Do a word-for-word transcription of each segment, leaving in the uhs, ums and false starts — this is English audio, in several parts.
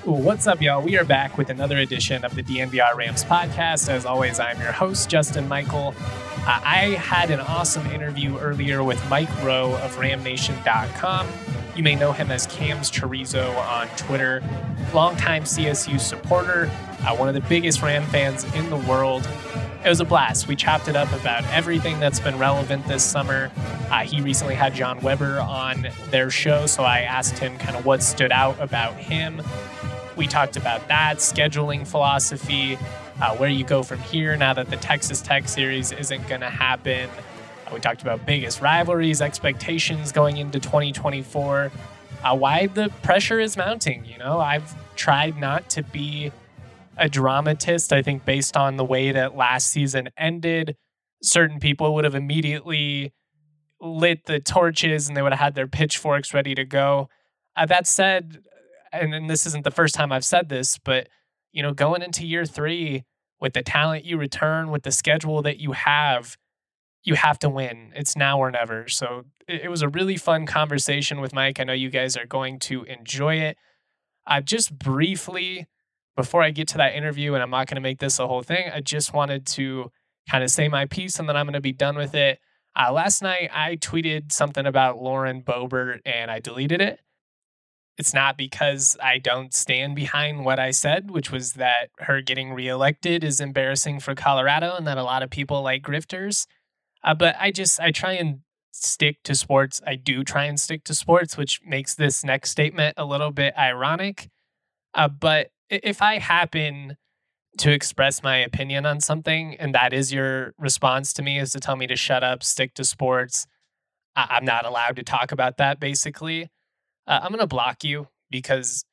What's up, y'all? We are back with another edition of the D N V R Rams podcast. As always, I'm your host, Justin Michael. Uh, I had an awesome interview earlier with Mike Rowe of Ram Nation dot com. You may know him as Cam's Chorizo on Twitter. Longtime C S U supporter, uh, one of the biggest Ram fans in the world. It was a blast. We chopped it up about everything that's been relevant this summer. Uh, he recently had John Weber on their show, so I asked him kind of what stood out about him. We talked about that, scheduling philosophy, uh, where you go from here now that the Texas Tech series isn't going to happen. Uh, we talked about biggest rivalries, expectations going into twenty twenty-four, uh, why the pressure is mounting. You know, I've tried not to be a dramatist. I think based on the way that last season ended, certain people would have immediately lit the torches and they would have had their pitchforks ready to go. Uh, that said, and, and this isn't the first time I've said this, but, you know, going into year three with the talent you return, with the schedule that you have, you have to win. It's now or never. So it, it was a really fun conversation with Mike. I know you guys are going to enjoy it. Uh, just briefly, before I get to that interview, and I'm not going to make this a whole thing, I just wanted to kind of say my piece and then I'm going to be done with it. Uh, last night, I tweeted something about Lauren Boebert and I deleted it. It's not because I don't stand behind what I said, which was that her getting reelected is embarrassing for Colorado and that a lot of people like grifters. Uh, but I just, I try and stick to sports. I do try and stick to sports, which makes this next statement a little bit ironic. Uh, but if I happen to express my opinion on something and that is your response to me is to tell me to shut up, stick to sports, I- I'm not allowed to talk about that basically. Uh, I'm going to block you because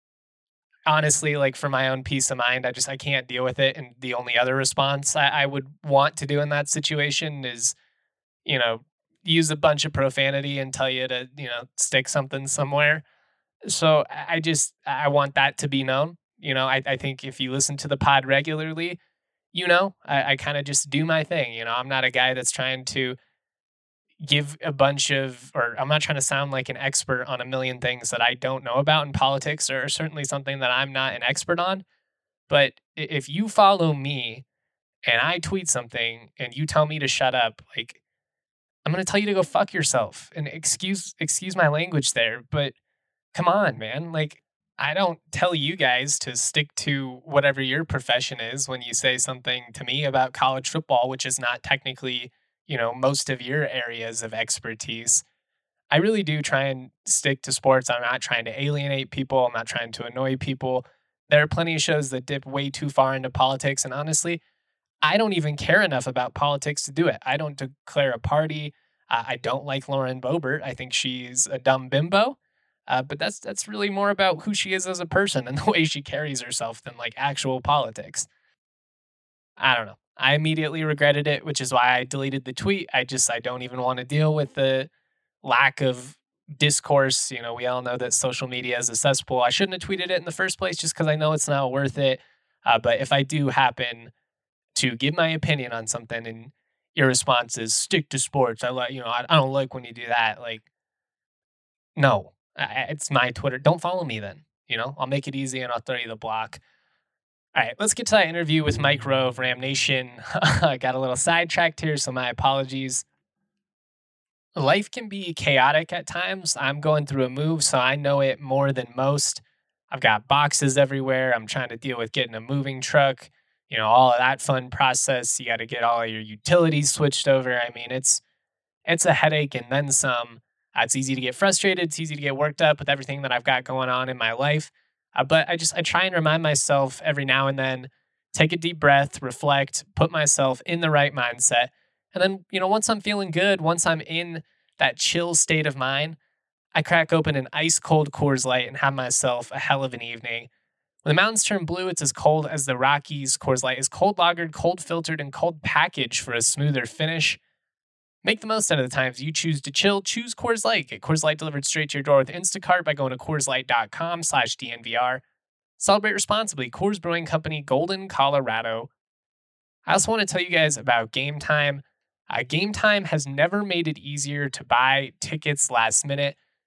honestly, like for my own peace of mind, I just, I can't deal with it. And the only other response I, I would want to do in that situation is, you know, use a bunch of profanity and tell you to, you know, stick something somewhere. So I just, I want that to be known. You know, I, I think if you listen to the pod regularly, you know, I, I kind of just do my thing. You know, I'm not a guy that's trying to give a bunch of, or I'm not trying to sound like an expert on a million things that I don't know about in politics, or certainly something that I'm not an expert on. But if you follow me and I tweet something and you tell me to shut up, like I'm going to tell you to go fuck yourself. And excuse, excuse my language there, but come on, man. Like I don't tell you guys to stick to whatever your profession is when you say something to me about college football, which is not technically, you know, most of your areas of expertise. I really do try and stick to sports. I'm not trying to alienate people. I'm not trying to annoy people. There are plenty of shows that dip way too far into politics. And honestly, I don't even care enough about politics to do it. I don't declare a party. Uh, I don't like Lauren Boebert. I think she's a dumb bimbo. Uh, but that's that's really more about who she is as a person and the way she carries herself than like actual politics. I don't know. I immediately regretted it, which is why I deleted the tweet. I just I don't even want to deal with the lack of discourse. You know, we all know that social media is a cesspool. I shouldn't have tweeted it in the first place just because I know it's not worth it. Uh, but if I do happen to give my opinion on something and your response is stick to sports, I like you know I, I don't like when you do that. Like, no, I, it's my Twitter. Don't follow me then. You know, I'll make it easy and I'll throw you the block. All right, let's get to that interview with Mike Rowe of Ram Nation. I got a little sidetracked here, so my apologies. Life can be chaotic at times. I'm going through a move, so I know it more than most. I've got boxes everywhere. I'm trying to deal with getting a moving truck, you know, all of that fun process. You got to get all of your utilities switched over. I mean, it's it's a headache and then some. Uh, it's easy to get frustrated. It's easy to get worked up with everything that I've got going on in my life. Uh, but I just, I try and remind myself every now and then, take a deep breath, reflect, put myself in the right mindset. And then, you know, once I'm feeling good, once I'm in that chill state of mind, I crack open an ice cold Coors Light and have myself a hell of an evening. When the mountains turn blue, it's as cold as the Rockies. Coors Light is cold lagered, cold filtered, and cold packaged for a smoother finish. Make the most out of the times you choose to chill. Choose Coors Light. Get Coors Light delivered straight to your door with Instacart by going to CoorsLight.com slash DNVR. Celebrate responsibly. Coors Brewing Company, Golden, Colorado. I also want to tell you guys about Game Time. Uh, Game Time has never made it easier to buy tickets last minute.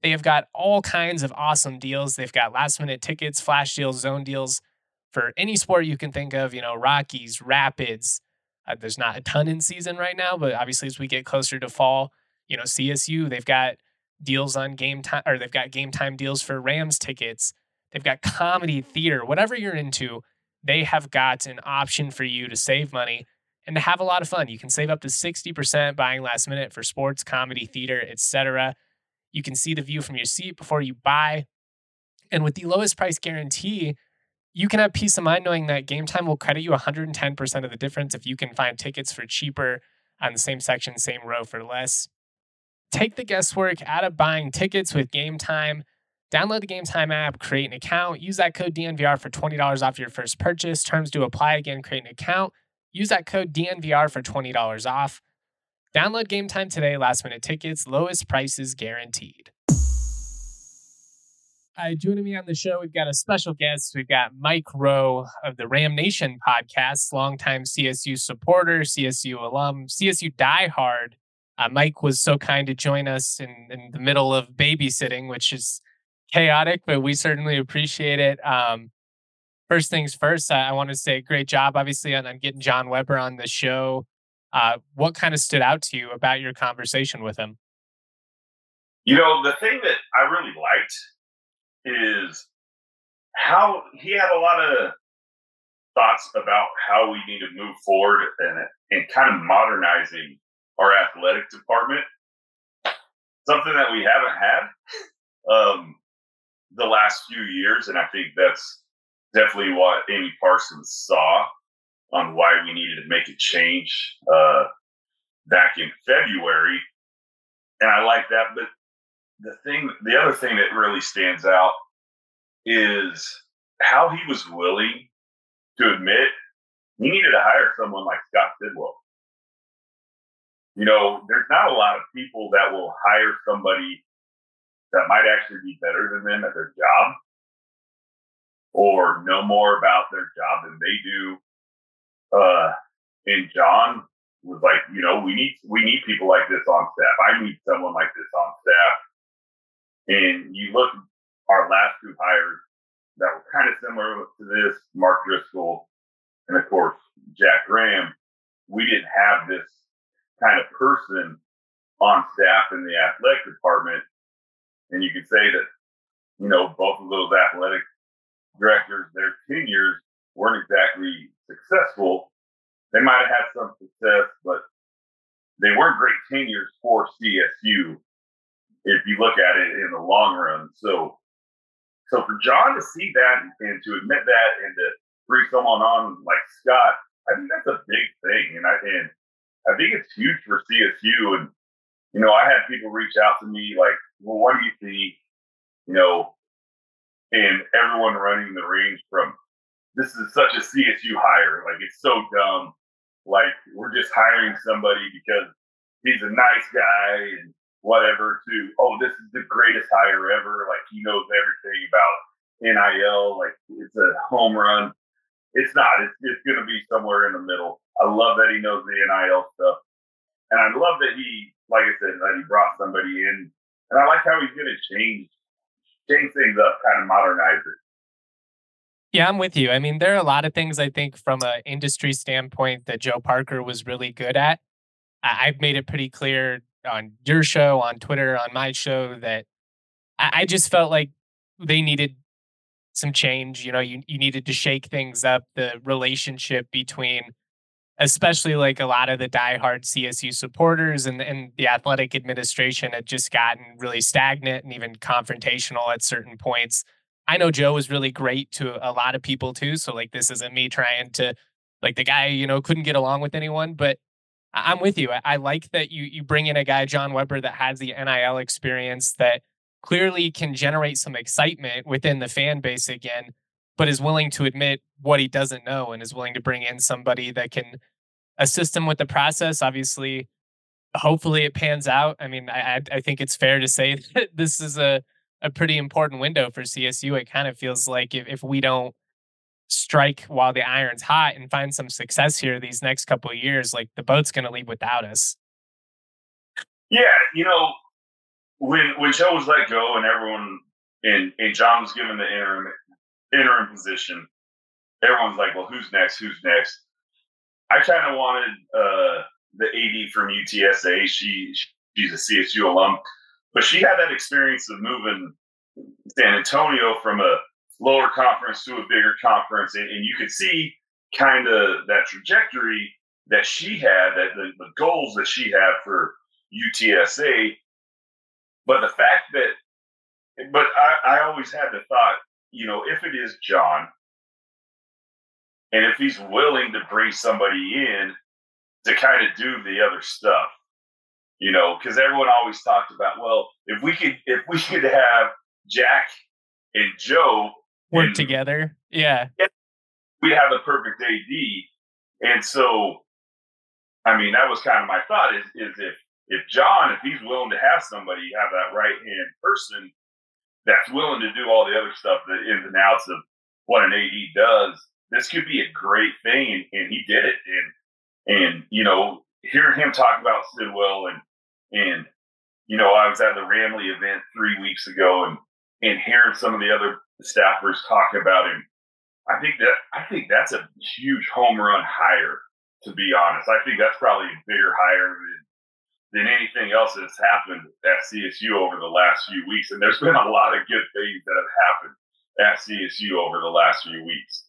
They have got all kinds of awesome deals. They've got last minute tickets, flash deals, zone deals for any sport you can think of, you know, Rockies, Rapids. Uh, there's not a ton in season right now, but obviously as we get closer to fall, you know, C S U, they've got deals on game time, or they've got game time deals for Rams tickets. They've got comedy, theater, whatever you're into, they have got an option for you to save money and to have a lot of fun. You can save up to sixty percent buying last minute for sports, comedy, theater, et cetera. You can see the view from your seat before you buy. And with the lowest price guarantee, you can have peace of mind knowing that Game Time will credit you one hundred ten percent of the difference if you can find tickets for cheaper on the same section, same row for less. Take the guesswork out of buying tickets with Game Time. Download the Game Time app, create an account, use that code D N V R for twenty dollars off your first purchase. Terms do apply. Again, create an account, use that code D N V R for twenty dollars off. Download Game Time today. Last minute tickets, lowest prices guaranteed. Uh, joining me on the show, we've got a special guest. We've got Mike Rowe of the Ram Nation podcast, longtime C S U supporter, C S U alum, C S U diehard. Uh, Mike was so kind to join us in, in the middle of babysitting, which is chaotic, but we certainly appreciate it. Um, first things first, I, I want to say great job, obviously, on, on getting John Weber on the show. Uh, what kind of stood out to you about your conversation with him? You know, the thing that I really liked is how he had a lot of thoughts about how we need to move forward and, and kind of modernizing our athletic department, something that we haven't had um, the last few years. And I think that's definitely what Amy Parsons saw on why we needed to make a change uh, back in February. And I like that. But the thing, the other thing that really stands out is how he was willing to admit he needed to hire someone like Scott Sidwell. You know, there's not a lot of people that will hire somebody that might actually be better than them at their job or know more about their job than they do. Uh, and John was like, you know, we need we need people like this on staff. I need someone like this on staff. And you look at our last two hires that were kind of similar to this, Mark Driscoll and, of course, Jack Graham. We didn't have this kind of person on staff in the athletic department. And you could say that, you know, both of those athletic directors, their tenures weren't exactly successful. They might have had some success, but they weren't great tenures for C S U if you look at it in the long run. So, so for John to see that and, and to admit that and to bring someone on like Scott, I think that's a big thing. And I, and I think it's huge for C S U. And, you know, I had people reach out to me like, well, what do you think, you know, and everyone running the range from, this is such a C S U hire. Like, it's so dumb. Like, we're just hiring somebody because he's a nice guy and whatever, to, oh, this is the greatest hire ever. Like, he knows everything about N I L. Like, it's a home run. It's not. It's, it's going to be somewhere in the middle. I love that he knows the N I L stuff. And I love that he, like I said, that he brought somebody in. And I like how he's going to change, change things up, kind of modernize it. Yeah, I'm with you. I mean, there are a lot of things I think from an industry standpoint that Joe Parker was really good at. I- I've made it pretty clear on your show, on Twitter, on my show, that I, I just felt like they needed some change. You know, you, you needed to shake things up, the relationship between especially like a lot of the diehard C S U supporters and, and the athletic administration had just gotten really stagnant and even confrontational at certain points. I know Joe was really great to a lot of people too. So like, this isn't me trying to, like, the guy, you know, couldn't get along with anyone, but I- I'm with you. I, I like that you, you bring in a guy, John Weber, that has the N I L experience, that clearly can generate some excitement within the fan base again, but is willing to admit what he doesn't know and is willing to bring in somebody that can assist him with the process. Obviously, hopefully it pans out. I mean, I, I think it's fair to say that this is a, a pretty important window for C S U. It kind of feels like if, if we don't strike while the iron's hot and find some success here these next couple of years, like, the boat's going to leave without us. Yeah, you know, when when Joe was let go and everyone and, and John was given the interim interim position, everyone's like, well, who's next? Who's next? I kind of wanted uh, the A D from U T S A. She she's a C S U alum, but she had that experience of moving San Antonio from a lower conference to a bigger conference, and, and you could see kind of that trajectory that she had, that the, the goals that she had for U T S A. But the fact that, but I, I always had the thought, you know, if it is John, and if he's willing to bring somebody in to kind of do the other stuff, you know, because everyone always talked about, well, if we could, if we could have Jack and Joe work and, together, yeah, we'd have the perfect A D. And so, I mean, that was kind of my thought: is is if if John, if he's willing to have somebody, have that right hand person that's willing to do all the other stuff, the ins and outs of what an A D does, this could be a great thing. And, and he did it. And and you know, hearing him talk about Sidwell and and you know, I was at the Ramley event three weeks ago, and and hearing some of the other staffers talk about him, I think that I think that's a huge home run hire. To be honest, I think that's probably a bigger hire than than anything else that's happened at C S U over the last few weeks. And there's been a lot of good things that have happened at C S U over the last few weeks.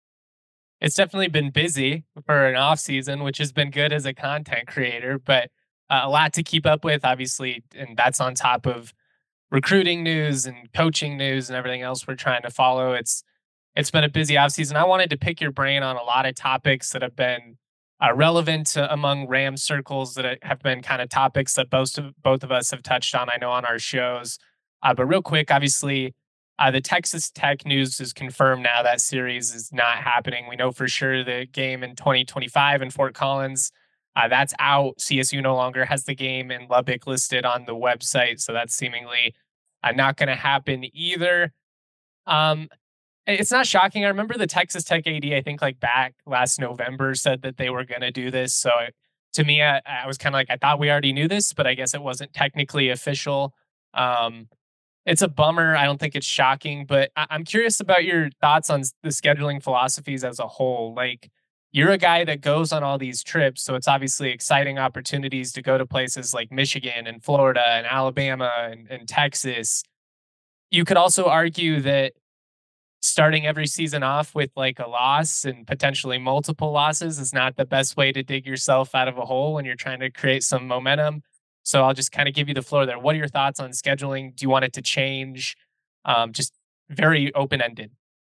It's definitely been busy for an off season, which has been good as a content creator, but uh, a lot to keep up with, obviously, and that's on top of recruiting news and coaching news and everything else we're trying to follow. It's it's been a busy offseason. I wanted to pick your brain on a lot of topics that have been uh, relevant uh, among Ram circles, that have been kind of topics that both of, both of us have touched on, I know, on our shows. Uh, but real quick, obviously, uh, the Texas Tech news is confirmed now. That series is not happening. We know for sure the game in twenty twenty-five in Fort Collins, uh, that's out. C S U no longer has the game in Lubbock listed on the website, so that's seemingly uh, not going to happen either. Um, it's not shocking. I remember the Texas Tech A D, I think like back last November, said that they were going to do this. So it, to me, I, I was kind of like, I thought we already knew this, but I guess it wasn't technically official. Um, it's a bummer. I don't think it's shocking, but I, I'm curious about your thoughts on the scheduling philosophies as a whole. Like, you're a guy that goes on all these trips, so it's obviously exciting opportunities to go to places like Michigan and Florida and Alabama and, and Texas. You could also argue that starting every season off with like a loss and potentially multiple losses is not the best way to dig yourself out of a hole when you're trying to create some momentum. So I'll just kind of give you the floor there. What are your thoughts on scheduling? Do you want it to change? Um, just very open-ended.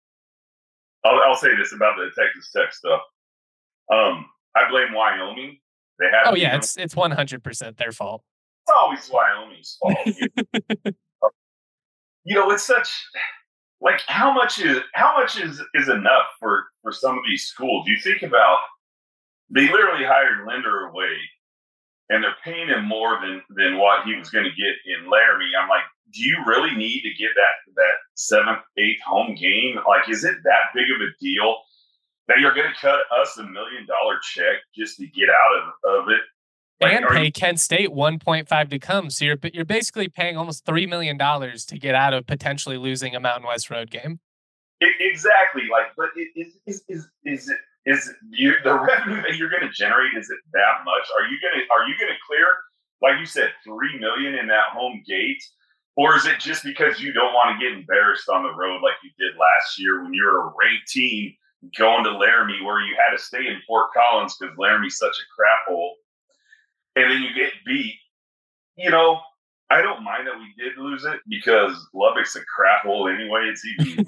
I'll, I'll say this about the Texas Tech stuff. Um, I blame Wyoming. They had. Oh yeah, it's it's one hundred percent their fault. It's always Wyoming's fault. You know, it's such. Like how much is how much is, is enough for, for some of these schools? You think about, they literally hired Linder away, and they're paying him more than than what he was going to get in Laramie. I'm like, do you really need to get that that seventh, eighth home game? Like, is it that big of a deal that you're going to cut us a million dollar check just to get out of, of it? Like, and pay you, Kent State one point five to come. So you're you're basically paying almost three million dollars to get out of potentially losing a Mountain West road game. It, exactly. Like, but it, is, is, is, is it, is you, the revenue that you're going to generate, is it that much? Are you going to, are you going to clear, like you said, three million in that home gate? Or is it just because you don't want to get embarrassed on the road like you did last year when you were a ranked team going to Laramie, where you had to stay in Fort Collins because Laramie's such a crap hole? And then you get beat. You know, I don't mind that we did lose it because Lubbock's a crap hole anyway. It's even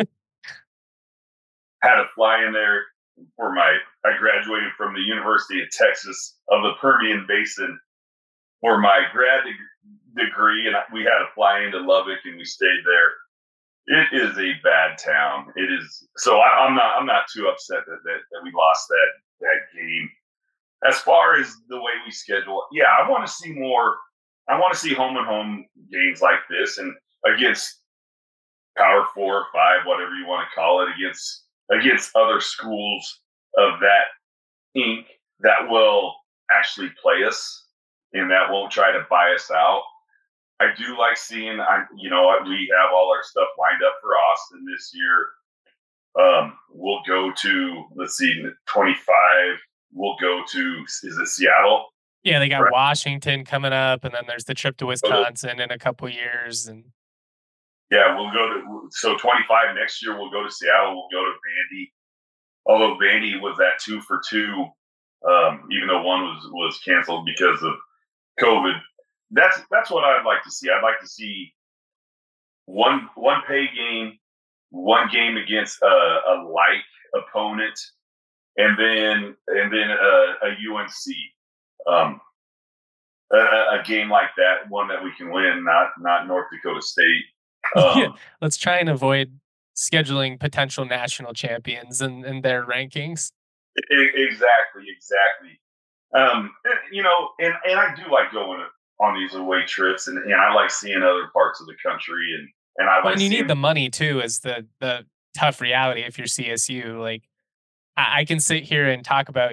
had to fly in there for my, I graduated from the University of Texas of the Permian Basin for my grad de- degree. And we had to fly into Lubbock and we stayed there. It is a bad town. It is. So I, I'm not, I'm not too upset that, that, that we lost that, that game. As far as the way we schedule, yeah, I want to see more. I want to see home and home games like this, and against Power Four or Five, whatever you want to call it, against against other schools of that ink that will actually play us and that won't try to buy us out. I do like seeing, I, you know, we have all our stuff lined up for Austin this year. Um, we'll go to, let's see, twenty-five. We'll go to, is it Seattle? Yeah, they got Right. Washington coming up, and then there's the trip to Wisconsin in a couple years. And yeah, we'll go to, so twenty-five next year, we'll go to Seattle. We'll go to Vandy. Although Vandy was at two for two, um, even though one was, was canceled because of COVID. That's that's what I'd like to see. I'd like to see one one pay game, one game against a, a like opponent, and then and then a, a U N C, um, a, a game like that, one that we can win, not not North Dakota State. Um, yeah, let's try and avoid scheduling potential national champions and, and their rankings. Exactly, exactly. Um, you know, and, and I do like going on these away trips, and, and I like seeing other parts of the country, and and I like. Well, and you seeing- need the money too, as the the tough reality. If you're C S U, like I, I can sit here and talk about.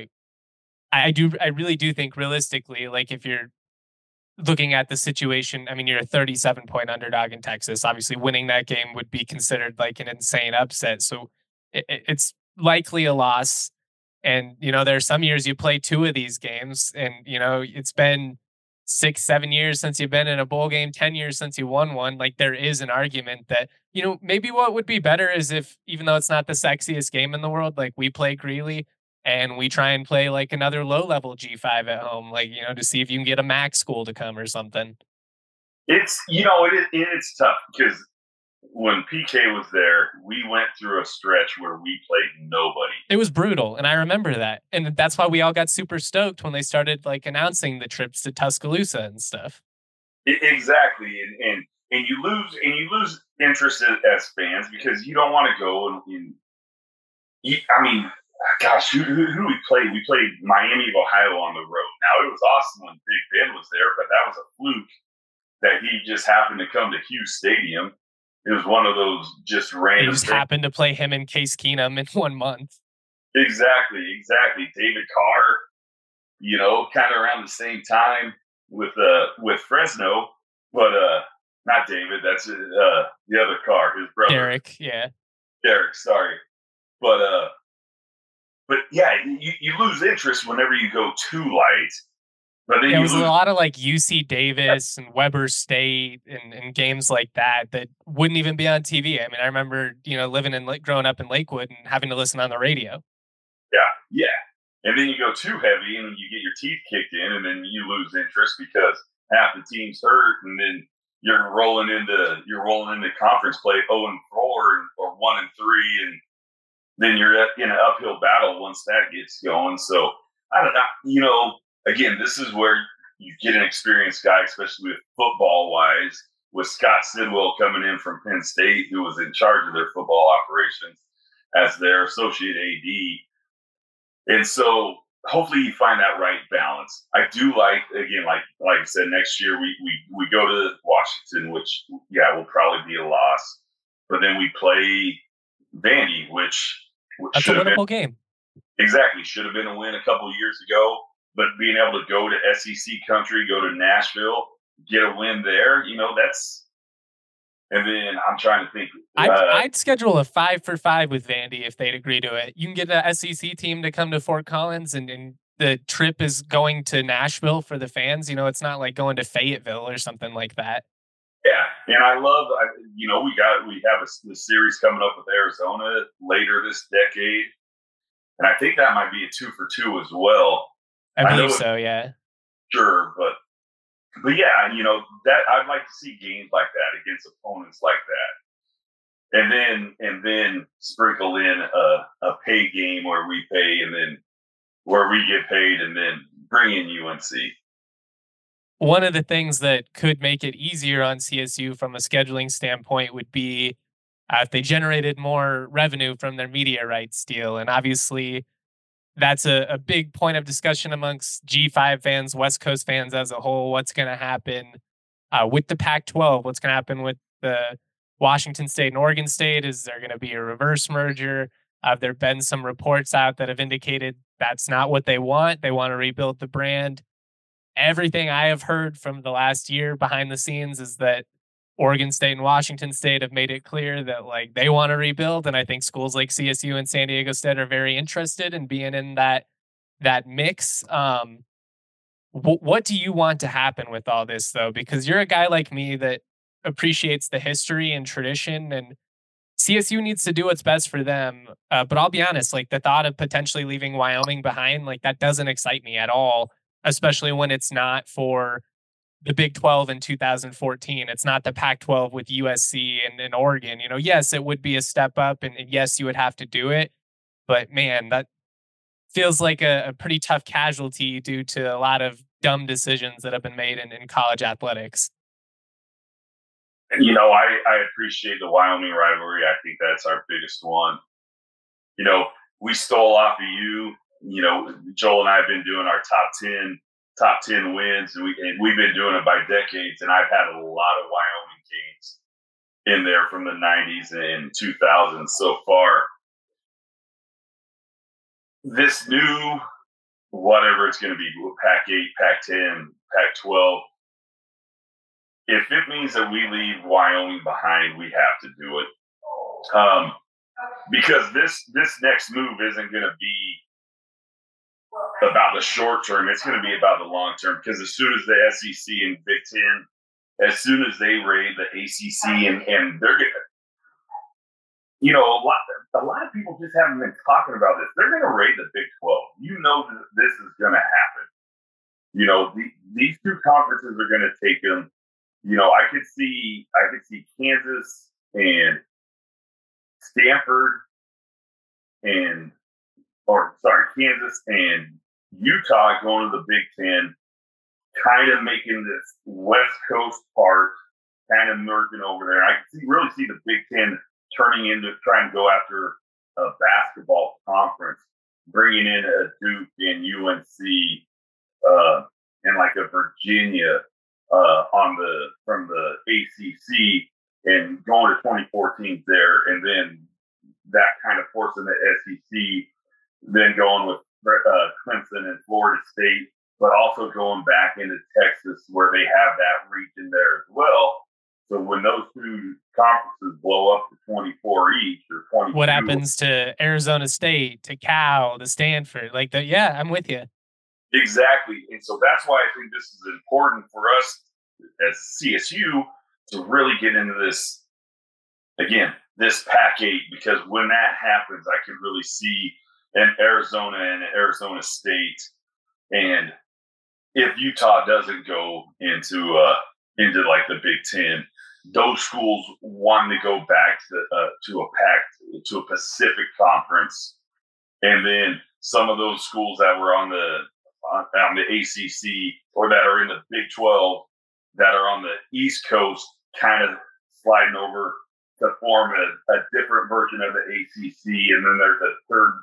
I do. I really do think realistically, like if you're looking at the situation, I mean, you're a thirty-seven point underdog in Texas. Obviously, winning that game would be considered like an insane upset. So it, it's likely a loss. And, you know, there are some years you play two of these games, and, you know, it's been six, seven years since you've been in a bowl game, ten years since you won one. Like, there is an argument that, you know, maybe what would be better is if, even though it's not the sexiest game in the world, like we play Greeley and we try and play like another low level G five at home, like, you know, to see if you can get a MAC school to come or something. It's, you know, it, it, it's tough because when P K was there, we went through a stretch where we played nobody. It was brutal, and I remember that. And that's why we all got super stoked when they started like announcing the trips to Tuscaloosa and stuff. It, exactly. And, and and you lose and you lose interest as fans because you don't want to go and, and you, I mean, gosh, who, who, who we played? We played Miami of Ohio on the road. Now, it was awesome when Big Ben was there, but that was a fluke that he just happened to come to Hughes Stadium. It was one of those just random. It just things. happened to play him and Case Keenum in one month. Exactly, exactly. David Carr, you know, kind of around the same time with uh with Fresno, but uh not David. That's uh the other Carr, his brother, Derek. Yeah, Derek. Sorry, but uh, but yeah, you, you lose interest whenever you go too light. But then yeah, you it was lose- a lot of like U C Davis and Weber State and, and games like that that wouldn't even be on T V. I mean, I remember, you know, living in growing up in Lakewood and having to listen on the radio. Yeah, yeah. And then you go too heavy and you get your teeth kicked in, and then you lose interest because half the team's hurt, and then you're rolling into you're rolling into conference play oh and four or one and three, and then you're in an uphill battle once that gets going. So I don't know, you know. Again, this is where you get an experienced guy, especially with football wise, with Scott Sidwell coming in from Penn State, who was in charge of their football operations as their associate A D. And so hopefully you find that right balance. I do like, again, like like I said, next year we we, we go to Washington, which, yeah, will probably be a loss. But then we play Vandy, which, which That's a winnable been, game. Exactly. Should have been a win a couple of years ago. But being able to go to S E C country, go to Nashville, get a win there, you know, that's. And then I'm trying to think. I'd, uh, I'd schedule a five for five with Vandy if they'd agree to it. You can get the S E C team to come to Fort Collins, and, and the trip is going to Nashville for the fans. You know, it's not like going to Fayetteville or something like that. Yeah, and I love, you know, we got we have a, a series coming up with Arizona later this decade, and I think that might be a two for two as well. I believe I so, yeah. Sure, but but yeah, you know, that I'd like to see games like that against opponents like that, and then and then sprinkle in a, a pay game where we pay, and then where we get paid, and then bring in U N C. One of the things that could make it easier on C S U from a scheduling standpoint would be uh, if they generated more revenue from their media rights deal, and obviously. That's a, a big point of discussion amongst G five fans, West Coast fans as a whole. What's going to happen uh, with the Pac twelve? What's going to happen with the Washington State and Oregon State? Is there going to be a reverse merger? Uh, there have been some reports out that have indicated that's not what they want. They want to rebuild the brand. everything I have heard from the last year behind the scenes is that Oregon State and Washington State have made it clear that like they want to rebuild, and I think schools like C S U and San Diego State are very interested in being in that that mix. Um, wh- what do you want to happen with all this though? Because you're a guy like me that appreciates the history and tradition, and C S U needs to do what's best for them. Uh, but I'll be honest, like the thought of potentially leaving Wyoming behind, like that doesn't excite me at all, especially when it's not for the Big twelve in two thousand fourteen. It's not the Pac twelve with U S C and, and Oregon. You know, yes, it would be a step up, and, and yes, you would have to do it. But man, that feels like a, a pretty tough casualty due to a lot of dumb decisions that have been made in, in college athletics. You know, I, I appreciate the Wyoming rivalry. I think that's our biggest one. You know, we stole off of you. You know, Joel and I have been doing our top ten, top ten wins, and, we, and we've been doing it by decades. And I've had a lot of Wyoming games in there from the nineties and two thousands so far. This new, whatever it's going to be, Pac eight, Pac ten, Pac twelve, if it means that we leave Wyoming behind, we have to do it. Um, because this this next move isn't going to be about the short term. It's going to be about the long term. Because as soon as the S E C and Big Ten, as soon as they raid the A C C, and, and they're going to, you know, a lot, a lot of people just haven't been talking about this. They're going to raid the Big twelve. You know that this is going to happen. You know, the, these two conferences are going to take them. You know, I could see, I could see Kansas and Stanford and, or sorry, Kansas and Utah going to the Big Ten, kind of making this West Coast part, kind of merging over there. I can see, really see the Big Ten turning into trying to go after a basketball conference, bringing in a Duke and U N C uh, and like a Virginia uh, on the from the A C C, and going to twenty-four teams there, and then that kind of forcing the S E C, then going with uh, Clemson and Florida State, but also going back into Texas where they have that region there as well. So when those two conferences blow up to twenty-four each or twenty-two, what happens to Arizona State, to Cal, to Stanford? Like that, yeah, I'm with you. Exactly. And so that's why I think this is important for us as C S U to really get into this, again, this Pac eight, because when that happens, I can really see an Arizona and Arizona State. And if Utah doesn't go into uh, into like the Big Ten, those schools want to go back to uh, to a Pac to a Pacific Conference, and then some of those schools that were on the on, on the A C C or that are in the Big twelve that are on the East Coast, kind of sliding over to form a, a different version of the A C C, and then there's a third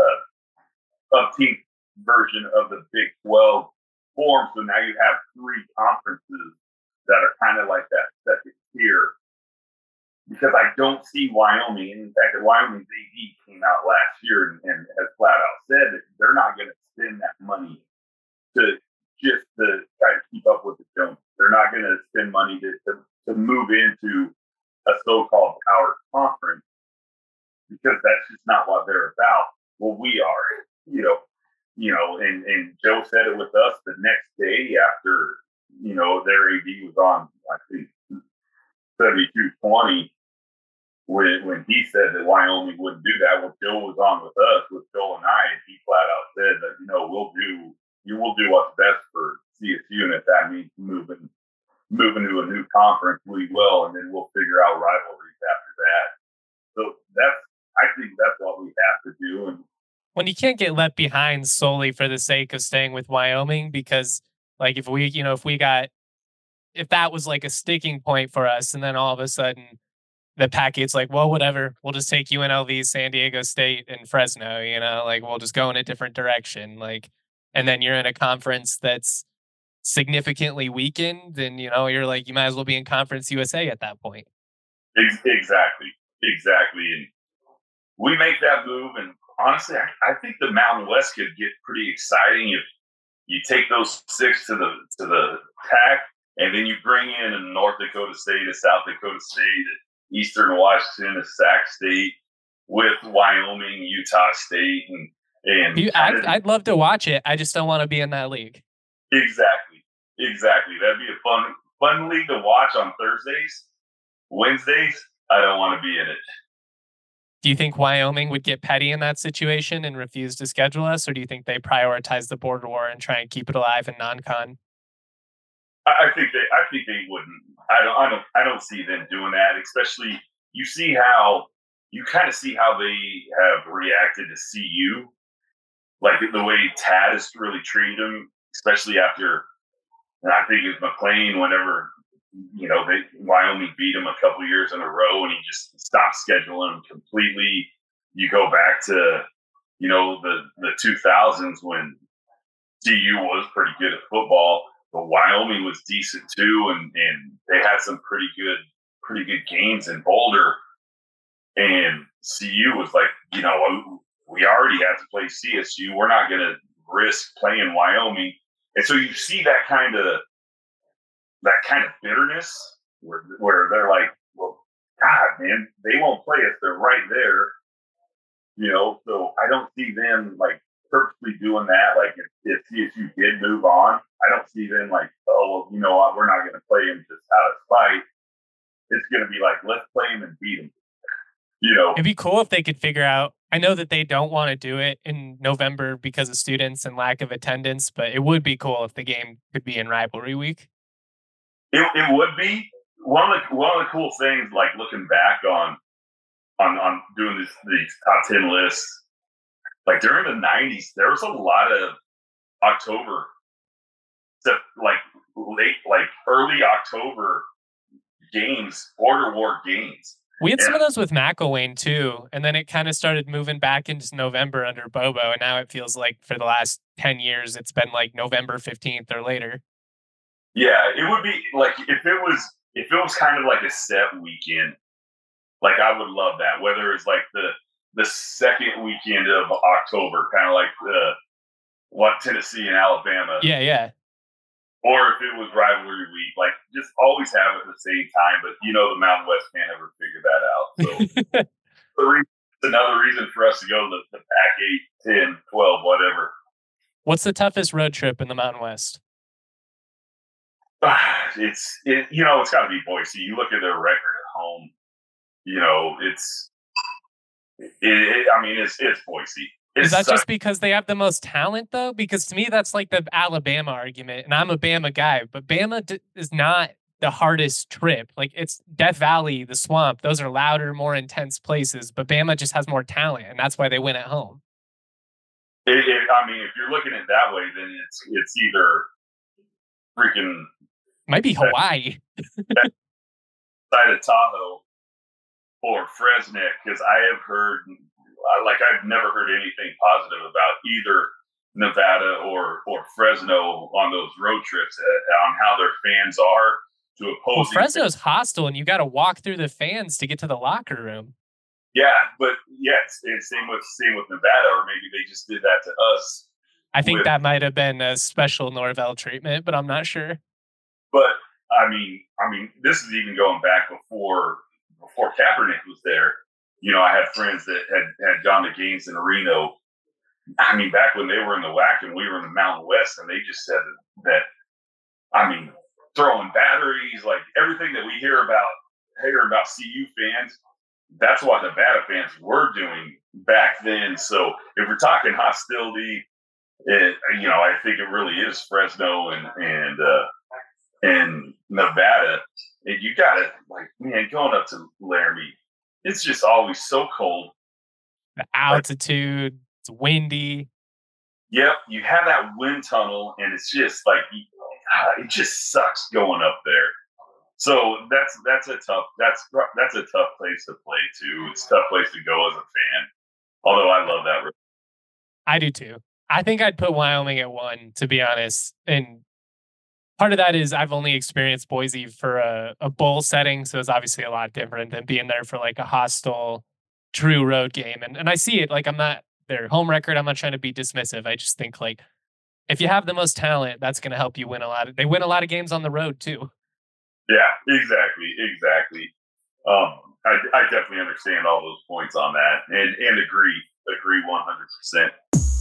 uh, upteenth version of the Big twelve form. So now you have three conferences that are kind of like that second tier. Because I don't see Wyoming, and in fact, Wyoming's A D came out last year and, and has flat out said that they're not going to spend that money to just to try to keep up with the Joneses. They're not going to spend money to, to to move into a so-called power conference, because that's just not what they're about. Well, we are, you know, you know, and, and Joe said it with us the next day after, you know, their A D was on, I think, seventy-two twenty, when when he said that Wyoming wouldn't do that. Well, Joe was on with us, with Joe and I, and he flat out said that, you know, we'll do, you will do what's best for C S U, and if that means moving moving to a new conference, we will, and then we'll figure out rivalries after that. So that's, I think that's what we have to do. And when you can't get left behind solely for the sake of staying with Wyoming, because like if we, you know, if we got, if that was like a sticking point for us, and then all of a sudden the Pac eight's like, well, whatever, we'll just take U N L V, San Diego State, and Fresno, you know, like we'll just go in a different direction. Like, and then you're in a conference that's significantly weakened, and you know, you're like, you might as well be in Conference U S A at that point. Exactly. Exactly. And we make that move, and honestly, I, I think the Mountain West could get pretty exciting if, you take those six to the to the pack, and then you bring in a North Dakota State, a South Dakota State, Eastern Washington, a Sac State, with Wyoming, Utah State, and and you, I'd, I'd love to watch it. I just don't want to be in that league. Exactly, exactly. That'd be a fun fun league to watch on Thursdays. Wednesdays, I don't want to be in it. Do you think Wyoming would get petty in that situation and refuse to schedule us, or do you think they prioritize the border war and try and keep it alive in non-con? I think they. I think they wouldn't. I don't. I don't. I don't see them doing that. Especially, you see how you kind of see how they have reacted to C U, like the way Tad has really treated them, especially after. And I think it's McLean. Whenever you know they Wyoming beat him a couple years in a row, and he just stopped scheduling them completely. You go back to you know the the two thousands when C U was pretty good at football. But Wyoming was decent too, and, and they had some pretty good, pretty good games in Boulder. And C U was like, you know, we already have to play C S U. We're not going to risk playing Wyoming. And so you see that kind of that kind of bitterness where where they're like, well, God, man, they won't play us. They're right there, you know. So I don't see them like purposely doing that. Like if, if C S U did move on, I don't see them like, oh, well, you know what, we're not going to play him just out of spite. It's going to be like, let's play him and beat him. You know, it'd be cool if they could figure out. I know that they don't want to do it in November because of students and lack of attendance, but it would be cool if the game could be in rivalry week. It, it would be one of the one of the cool things. Like looking back on on on doing these these top ten lists. Like during the nineties, there was a lot of October, like late, like early October games, border war games. We had and, some of those with McElwain too, and then it kind of started moving back into November under Bobo, and now it feels like for the last ten years, it's been like November fifteenth or later. Yeah, it would be like if it was if it was kind of like a set weekend. Like I would love that. Whether it's like the the second weekend of October, kind of like the what Tennessee and Alabama. Yeah, yeah. Or if it was rivalry week, like just always have it at the same time. But you know the Mountain West can't ever figure that out. So the reason, it's another reason for us to go to the, the Pac eight, ten, twelve, whatever. What's the toughest road trip in the Mountain West? It's it, you know it's got to be Boise. You look at their record at home. You know it's. It, it, I mean, it's it's Boise. It's Is that such- just because they have the most talent, though? Because to me, that's like the Alabama argument, and I'm a Bama guy, but Bama d- is not the hardest trip. Like it's Death Valley, the swamp; those are louder, more intense places. But Bama just has more talent, and that's why they win at home. It, it, I mean, if you're looking at it that way, then it's it's either freaking might be Hawaii, side of Tahoe, or Fresno, because I have heard. Like I've never heard anything positive about either Nevada or or Fresno on those road trips uh, on how their fans are to oppose. Well, Fresno's hostile, and you got to walk through the fans to get to the locker room. Yeah, but yes, it's same with same with Nevada, or maybe they just did that to us. I think with, that might have been a special Norvell treatment, but I'm not sure. But I mean, I mean, this is even going back before before Kaepernick was there. You know, I had friends that had, had gone to games in Reno. I mean, back when they were in the W A C and we were in the Mountain West, and they just said that, that I mean, throwing batteries, like everything that we hear about, hear about C U fans, that's what Nevada fans were doing back then. So if we're talking hostility, it, you know, I think it really is Fresno and and uh, and Nevada. And you got to, like, man, going up to Laramie, it's just always so cold. The altitude, like, it's windy. Yep, you have that wind tunnel, and it's just like it just sucks going up there. So that's that's a tough that's that's a tough place to play too. It's a tough place to go as a fan. Although I love that. I do too. I think I'd put Wyoming at one, to be honest, and part of that is I've only experienced Boise for a, a bowl setting, so it's obviously a lot different than being there for like a hostile, true road game. And and I see it, like I'm not their home record. I'm not trying to be dismissive. I just think like if you have the most talent, that's going to help you win a lot. Of, they win a lot of games on the road too. Yeah, exactly, exactly. Um, I, I definitely understand all those points on that, and and agree, agree one hundred percent.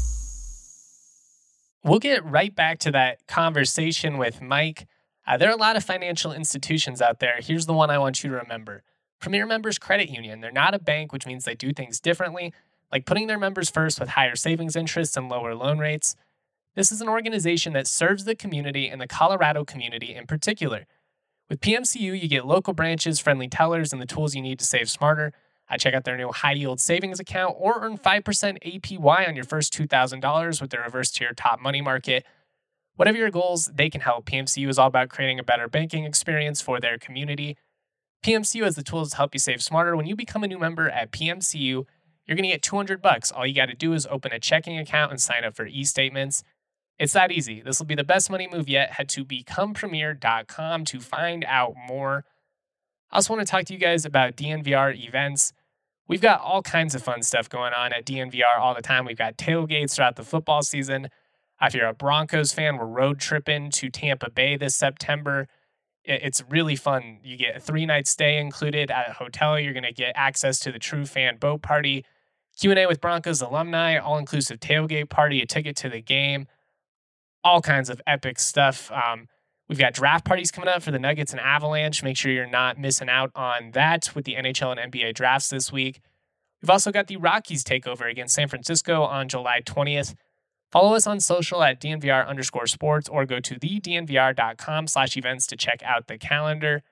We'll get right back to that conversation with Mike. Uh, there are a lot of financial institutions out there. Here's the one I want you to remember: Premier Members Credit Union. They're not a bank, which means they do things differently, like putting their members first with higher savings interests and lower loan rates. This is an organization that serves the community and the Colorado community in particular. With P M C U, you get local branches, friendly tellers, and the tools you need to save smarter. I check out their new high yield savings account or earn five percent A P Y on your first two thousand dollars with their reverse tier top money market. Whatever your goals, they can help. P M C U is all about creating a better banking experience for their community. P M C U has the tools to help you save smarter. When you become a new member at P M C U, you're going to get two hundred bucks. All you got to do is open a checking account and sign up for e-statements. It's that easy. This will be the best money move yet. Head to become premier dot com to find out more. I also want to talk to you guys about D N V R events. We've got all kinds of fun stuff going on at D N V R all the time. We've got tailgates throughout the football season. If you're a Broncos fan, we're road tripping to Tampa Bay this September. It's really fun. You get a three-night stay included at a hotel. You're going to get access to the True Fan Boat Party, Q and A with Broncos alumni, all-inclusive tailgate party, a ticket to the game. All kinds of epic stuff. Um, we've got draft parties coming up for the Nuggets and Avalanche. Make sure you're not missing out on that with the N H L and N B A drafts this week. We've also got the Rockies takeover against San Francisco on July twentieth. Follow us on social at DNVR underscore sports or go to the DNVR.com slash events to check out the calendar.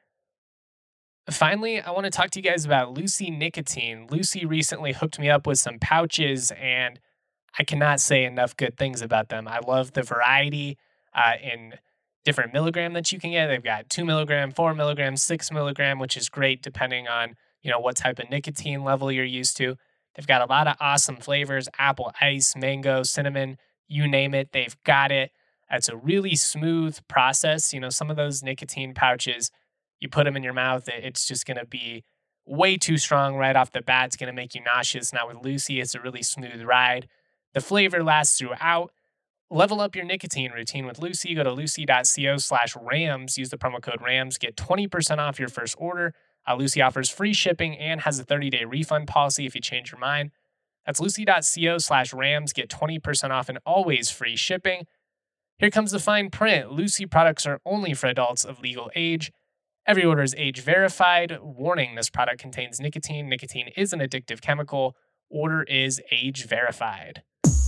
Finally, I want to talk to you guys about Lucy Nicotine. Lucy recently hooked me up with some pouches, and I cannot say enough good things about them. I love the variety uh, in different milligram that you can get. They've got two milligram, four milligram, six milligram, which is great depending on, you know, what type of nicotine level you're used to. They've got a lot of awesome flavors: apple ice, mango, cinnamon, you name it, they've got it. It's a really smooth process. You know, some of those nicotine pouches, you put them in your mouth, it's just going to be way too strong right off the bat. It's going to make you nauseous. Now with Lucy, it's a really smooth ride. The flavor lasts throughout. Level up your nicotine routine with Lucy. Go to lucy.co slash rams. Use the promo code RAMS. Get twenty percent off your first order. Uh, Lucy offers free shipping and has a thirty-day refund policy if you change your mind. That's lucy.co slash rams. Get twenty percent off and always free shipping. Here comes the fine print. Lucy products are only for adults of legal age. Every order is age verified. Warning, this product contains nicotine. Nicotine is an addictive chemical. Order is age verified.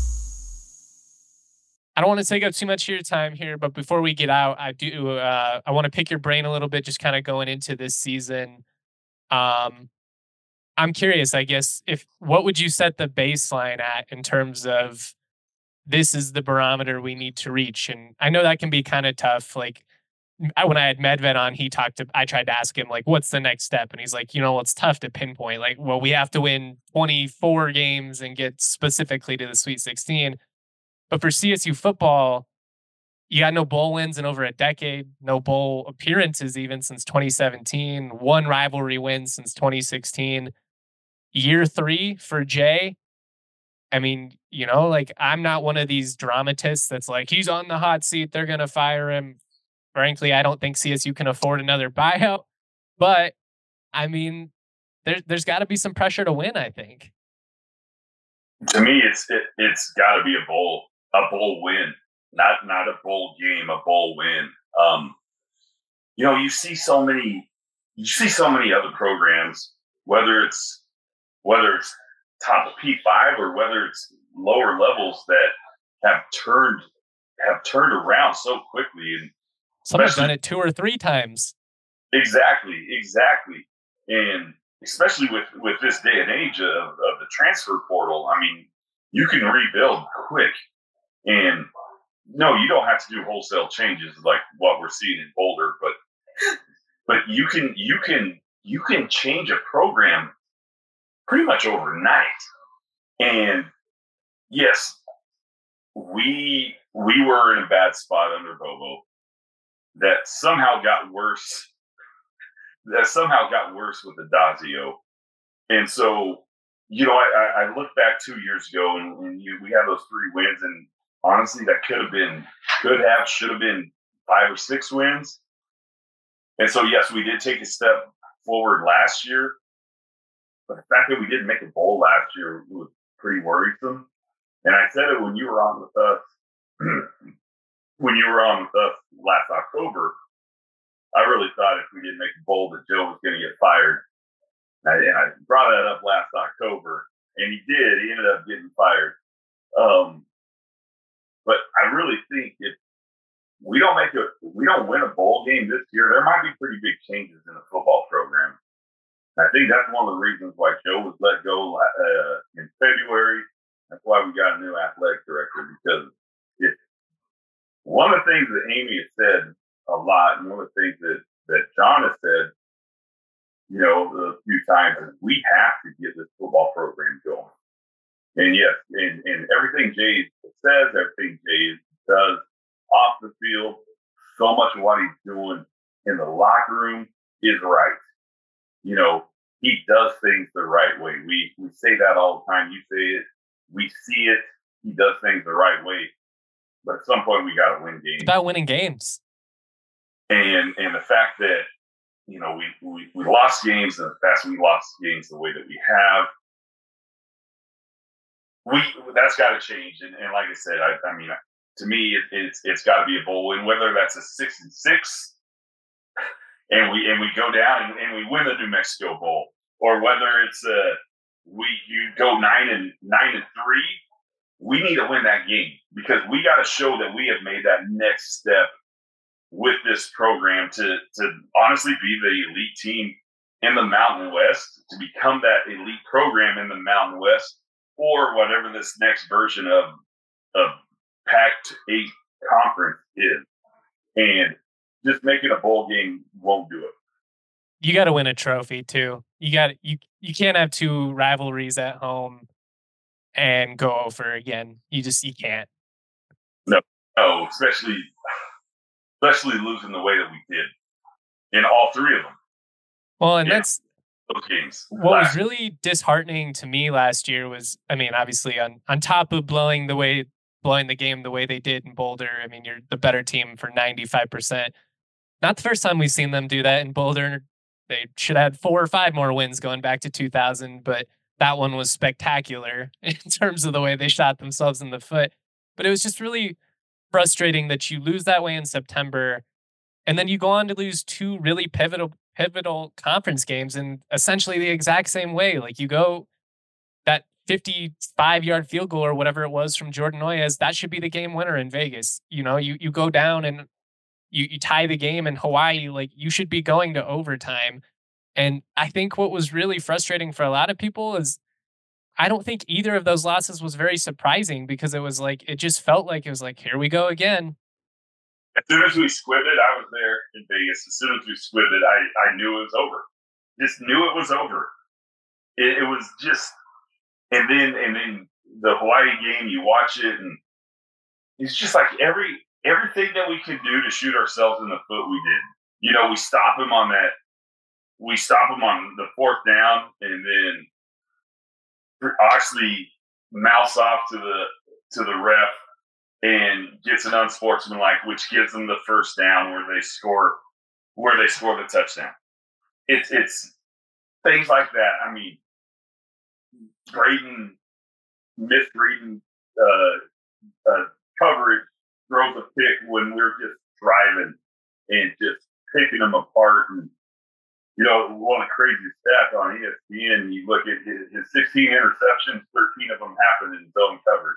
I don't want to take up too much of your time here, but before we get out, I do. Uh, I want to pick your brain a little bit, just kind of going into this season. Um, I'm curious, I guess, if what would you set the baseline at in terms of this is the barometer we need to reach? And I know that can be kind of tough. Like I, when I had Medved on, he talked to. I tried to ask him like, what's the next step, and he's like, you know, it's tough to pinpoint. Like, well, we have to win twenty-four games and get specifically to the Sweet sixteen. But for C S U football, you got no bowl wins in over a decade, no bowl appearances even since twenty seventeen, one rivalry win since twenty sixteen. Year three for Jay. I mean, you know, like I'm not one of these dramatists that's like, he's on the hot seat, they're going to fire him. Frankly, I don't think C S U can afford another buyout. But, I mean, there, there's got to be some pressure to win, I think. To me, it's it, it's got to be a bowl. A bowl win, not not a bowl game, a bowl win. Um, you know, you see so many, you see so many other programs, whether it's whether it's top of P five or whether it's lower levels that have turned have turned around so quickly, and some have done it two or three times. Exactly, exactly, and especially with with this day and age of, of the transfer portal, I mean, you can rebuild quick. And no, you don't have to do wholesale changes like what we're seeing in Boulder, but but you can you can you can change a program pretty much overnight. And yes, we we were in a bad spot under Bobo that somehow got worse. That somehow got worse with Adazio. And so, you know, I, I look back two years ago and, and you, we had those three wins, and honestly, that could have been, could have, should have been five or six wins. And so, yes, we did take a step forward last year. But the fact that we didn't make a bowl last year was pretty worrisome. And I said it when you were on with us, when you were on with us last October, I really thought if we didn't make a bowl that Joe was going to get fired. And I, and I brought that up last October, and he did. He ended up getting fired. Um, but I really think if we don't make a, we don't win a bowl game this year, there might be pretty big changes in the football program. And I think that's one of the reasons why Joe was let go uh, in February. That's why we got a new athletic director, because it, one of the things that Amy has said a lot, and one of the things that, that John has said, you know, a few times, is we have to get this football program going. And yes, and, and everything Jay says, everything Jay does off the field, so much of what he's doing in the locker room is right. You know, he does things the right way. We we say that all the time. You say it. We see it. He does things the right way. But at some point, we got to win games. It's about winning games. And and the fact that, you know, we, we, we lost games, and the fact we lost games the way that we have, we that's got to change. And, and like I said, I, I mean, to me, it, it's it's got to be a bowl win, whether that's a six and six, and we and we go down and, and we win the New Mexico Bowl, or whether it's a we you go nine and nine and three. We need to win that game, because we got to show that we have made that next step with this program to to honestly be the elite team in the Mountain West, to become that elite program in the Mountain West, or whatever this next version of of Pac eight conference is. And just making a bowl game won't do it. You got to win a trophy too. You got you you can't have two rivalries at home and go over again. You just you can't. No, no, especially especially losing the way that we did in all three of them. Well, and yeah, that's those games. What was really disheartening to me last year was, I mean, obviously on on top of blowing the way blowing the game the way they did in Boulder. I mean, you're the better team for ninety-five percent. Not the first time we've seen them do that in Boulder. They should have had four or five more wins going back to two thousand, but that one was spectacular in terms of the way they shot themselves in the foot. But it was just really frustrating that you lose that way in September, and then you go on to lose two really pivotal pivotal conference games in essentially the exact same way. Like, you go that fifty-five yard field goal or whatever it was from Jordan Noyes, that should be the game winner in Vegas. You know, you you go down and you you tie the game in Hawaii. Like, you should be going to overtime. And I think what was really frustrating for a lot of people is I don't think either of those losses was very surprising, because it was like, it just felt like it was like, here we go again. As soon as we squibbed it, I was there in Vegas. As soon as we squibbed it, I, I knew it was over. Just knew it was over. It, it was just, and then and then the Hawaii game, you watch it, and it's just like every everything that we could do to shoot ourselves in the foot, we did. You know, we stop him on that. We stop him on the fourth down, and then actually mouse off to the to the ref and gets an unsportsmanlike, which gives them the first down where they score where they score the touchdown. It's it's things like that. I mean, Braden misreading uh, uh, coverage, throws a pick when we're just driving and just picking them apart. And you know, one of the craziest stats on E S P N, you look at his, his sixteen interceptions, thirteen of them happened in zone coverage.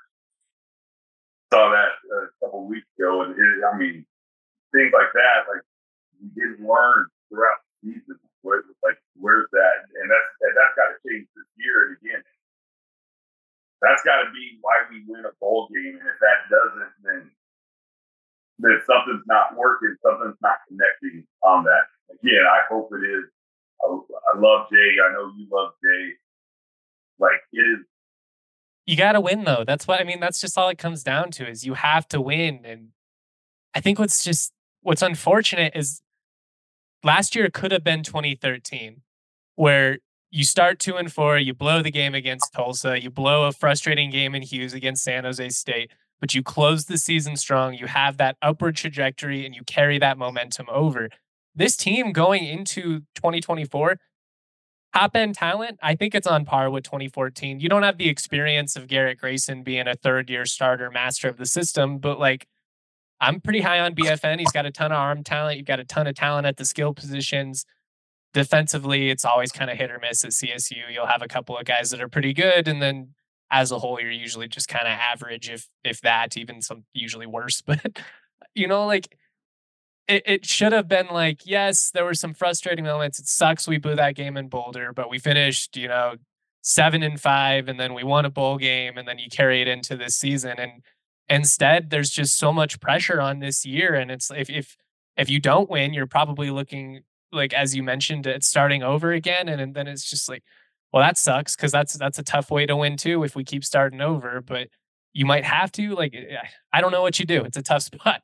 Saw that a couple of weeks ago, and it, I mean, things like that, like we didn't learn throughout the season. Where, like, where's that? And that's and that's got to change this year. And again, that's got to be why we win a bowl game. And if that doesn't, then then something's not working. Something's not connecting on that. Again, I hope it is. I, I love Jay. I know you love Jay. Like, it is. You got to win, though. That's what I mean. That's just all it comes down to, is you have to win. And I think what's just what's unfortunate is last year could have been twenty thirteen, where you start two and four, you blow the game against Tulsa, you blow a frustrating game in Hughes against San Jose State. but you close the season strong. You have that upward trajectory and you carry that momentum over. This team going into twenty twenty-four, top end talent, I think it's on par with twenty fourteen. You don't have the experience of Garrett Grayson being a third year starter, master of the system, but like I'm pretty high on B F N. He's got a ton of arm talent. You've got a ton of talent at the skill positions. Defensively, it's always kind of hit or miss at C S U. You'll have a couple of guys that are pretty good, and then as a whole, you're usually just kind of average, if if that, even some usually worse. But you know, like it, it should have been like, yes, there were some frustrating moments. It sucks we blew that game in Boulder, but we finished, you know, seven and five, and then we won a bowl game, and then you carry it into this season. And instead, there's just so much pressure on this year, and it's if if if you don't win, you're probably looking like, as you mentioned, at starting over again, and, and then it's just like, well, that sucks because that's that's a tough way to win too if we keep starting over. But you might have to like, I don't know what you do. It's a tough spot.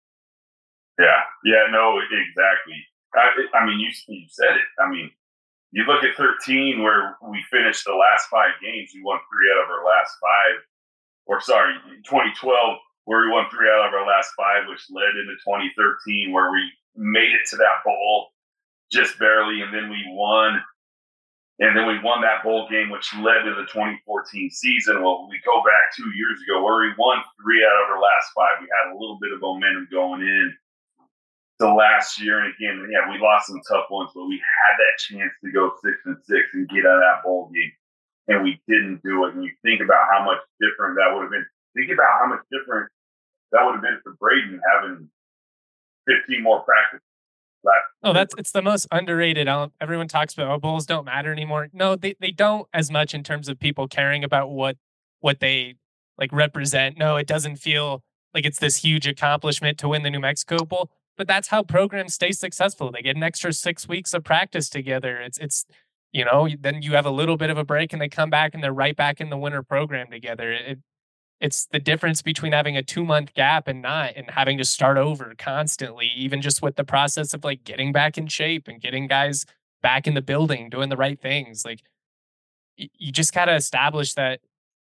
Yeah, yeah, no, exactly. I, I mean, you you said it. I mean, you look at thirteen where we finished the last five games. We won three out of our last five. Or sorry, twenty twelve where we won three out of our last five, which led into twenty thirteen where we made it to that bowl just barely, and then we won. And then we won that bowl game, which led to the twenty fourteen season. Well, we go back two years ago where we won three out of our last five. We had a little bit of momentum going in the last year. And again, yeah, we lost some tough ones, but we had that chance to go six and six and get out of that bowl game. And we didn't do it. And you think about how much different that would have been. Think about how much different that would have been for Braden having fifteen more practices. Oh, that's it's the most underrated. Everyone talks about, oh, bowls don't matter anymore. No, they, they don't as much in terms of people caring about what what they like represent. No, it doesn't feel like it's this huge accomplishment to win the New Mexico Bowl. But that's how programs stay successful. They get an extra six weeks of practice together. It's it's you know, then you have a little bit of a break and they come back and they're right back in the winter program together. It, it's the difference between having a two month gap and not, and having to start over constantly, even just with the process of like getting back in shape and getting guys back in the building, doing the right things. Like y- you just got to establish that,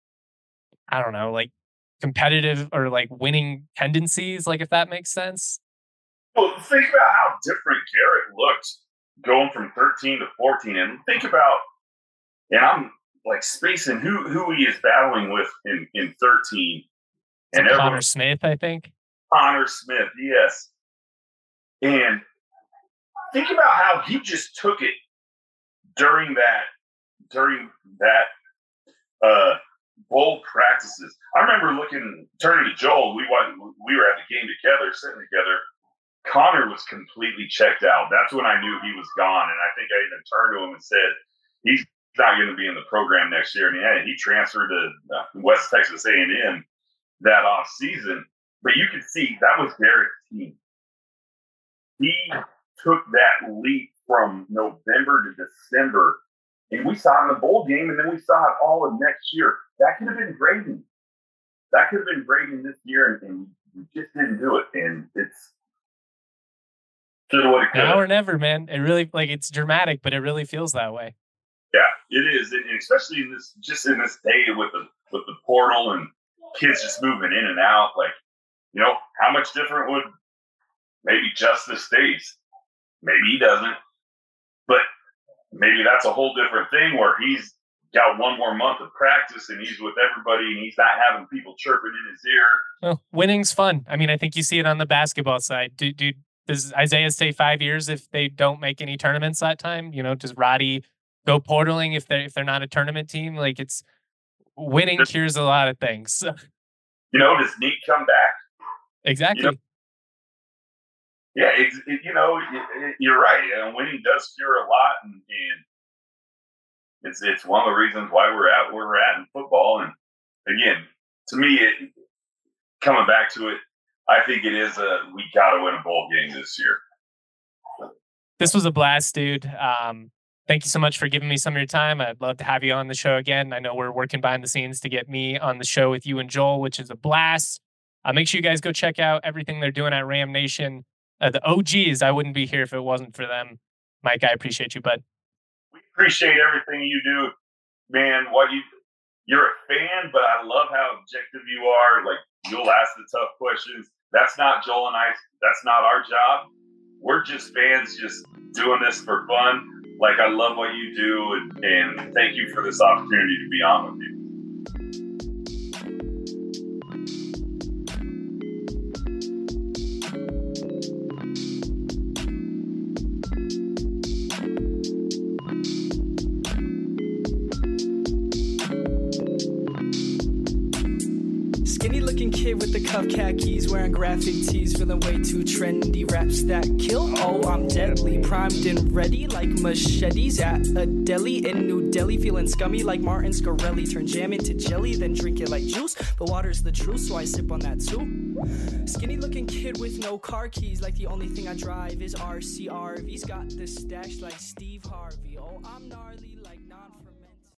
I don't know, like competitive or like winning tendencies, like if that makes sense. Well, think about how different Garrett looked going from thirteen to fourteen, and think about, and I'm like spacing who who he is battling with in, in thirteen. And Connor Smith, I think. Connor Smith, yes. And think about how he just took it during that during that uh, bowl practices. I remember looking, turning to Joel. We we were at the game together, sitting together. Connor was completely checked out. That's when I knew he was gone. And I think I even turned to him and said, he's not going to be in the program next year. And yeah, he transferred to West Texas A and M that off season. But you could see that was Garrett's team. He took that leap from November to December. And we saw it in the bowl game, and then we saw it all of next year. That could have been Braden. That could have been Braden this year, and, and we just didn't do it. And it's now or never, man. It really, like, it's dramatic, but it really feels that way. Yeah, it is, and especially in this, just in this day with the with the portal and kids just moving in and out. Like, you know, how much different would maybe Justice stays? Maybe he doesn't, but maybe that's a whole different thing where he's got one more month of practice and he's with everybody and he's not having people chirping in his ear. Well, winning's fun. I mean, I think you see it on the basketball side. Do, do, does Isaiah stay five years if they don't make any tournaments that time? You know, does Roddy go portaling if they're, if they're not a tournament team? Like, it's winning does, cures a lot of things. You know, does Neat come back? Exactly. You know, yeah, it's, it, you know, it, it, you're right. You know, winning does cure a lot, and, and it's it's one of the reasons why we're at where we're at in football. And again, to me, it, coming back to it, I think it is a we got to win a bowl game this year. This was a blast, dude. Um, thank you so much for giving me some of your time. I'd love to have you on the show again. I know we're working behind the scenes to get me on the show with you and Joel, which is a blast. Uh, make sure you guys go check out everything they're doing at Ram Nation. Uh, the O Gs, I wouldn't be here if it wasn't for them. Mike, I appreciate you, bud. We appreciate everything you do, man. What you you're a fan, but I love how objective you are. Like, You'll ask the tough questions. That's not Joel and I. That's not our job. We're just fans just doing this for fun. Like, I love what you do, and, and thank you for this opportunity to be on with you. Kid with the cuff khakis, wearing graphic tees, feeling way too trendy. Raps that kill, oh, I'm deadly. Primed and ready like machetes at a deli in New Delhi. Feeling scummy like Martin Scarelli. Turn jam into jelly, then drink it like juice. But water's the truth, so I sip on that too. Skinny looking kid with no car keys, like the only thing I drive is R C R V's. Got the stash like Steve Harvey. Oh, I'm gnarly.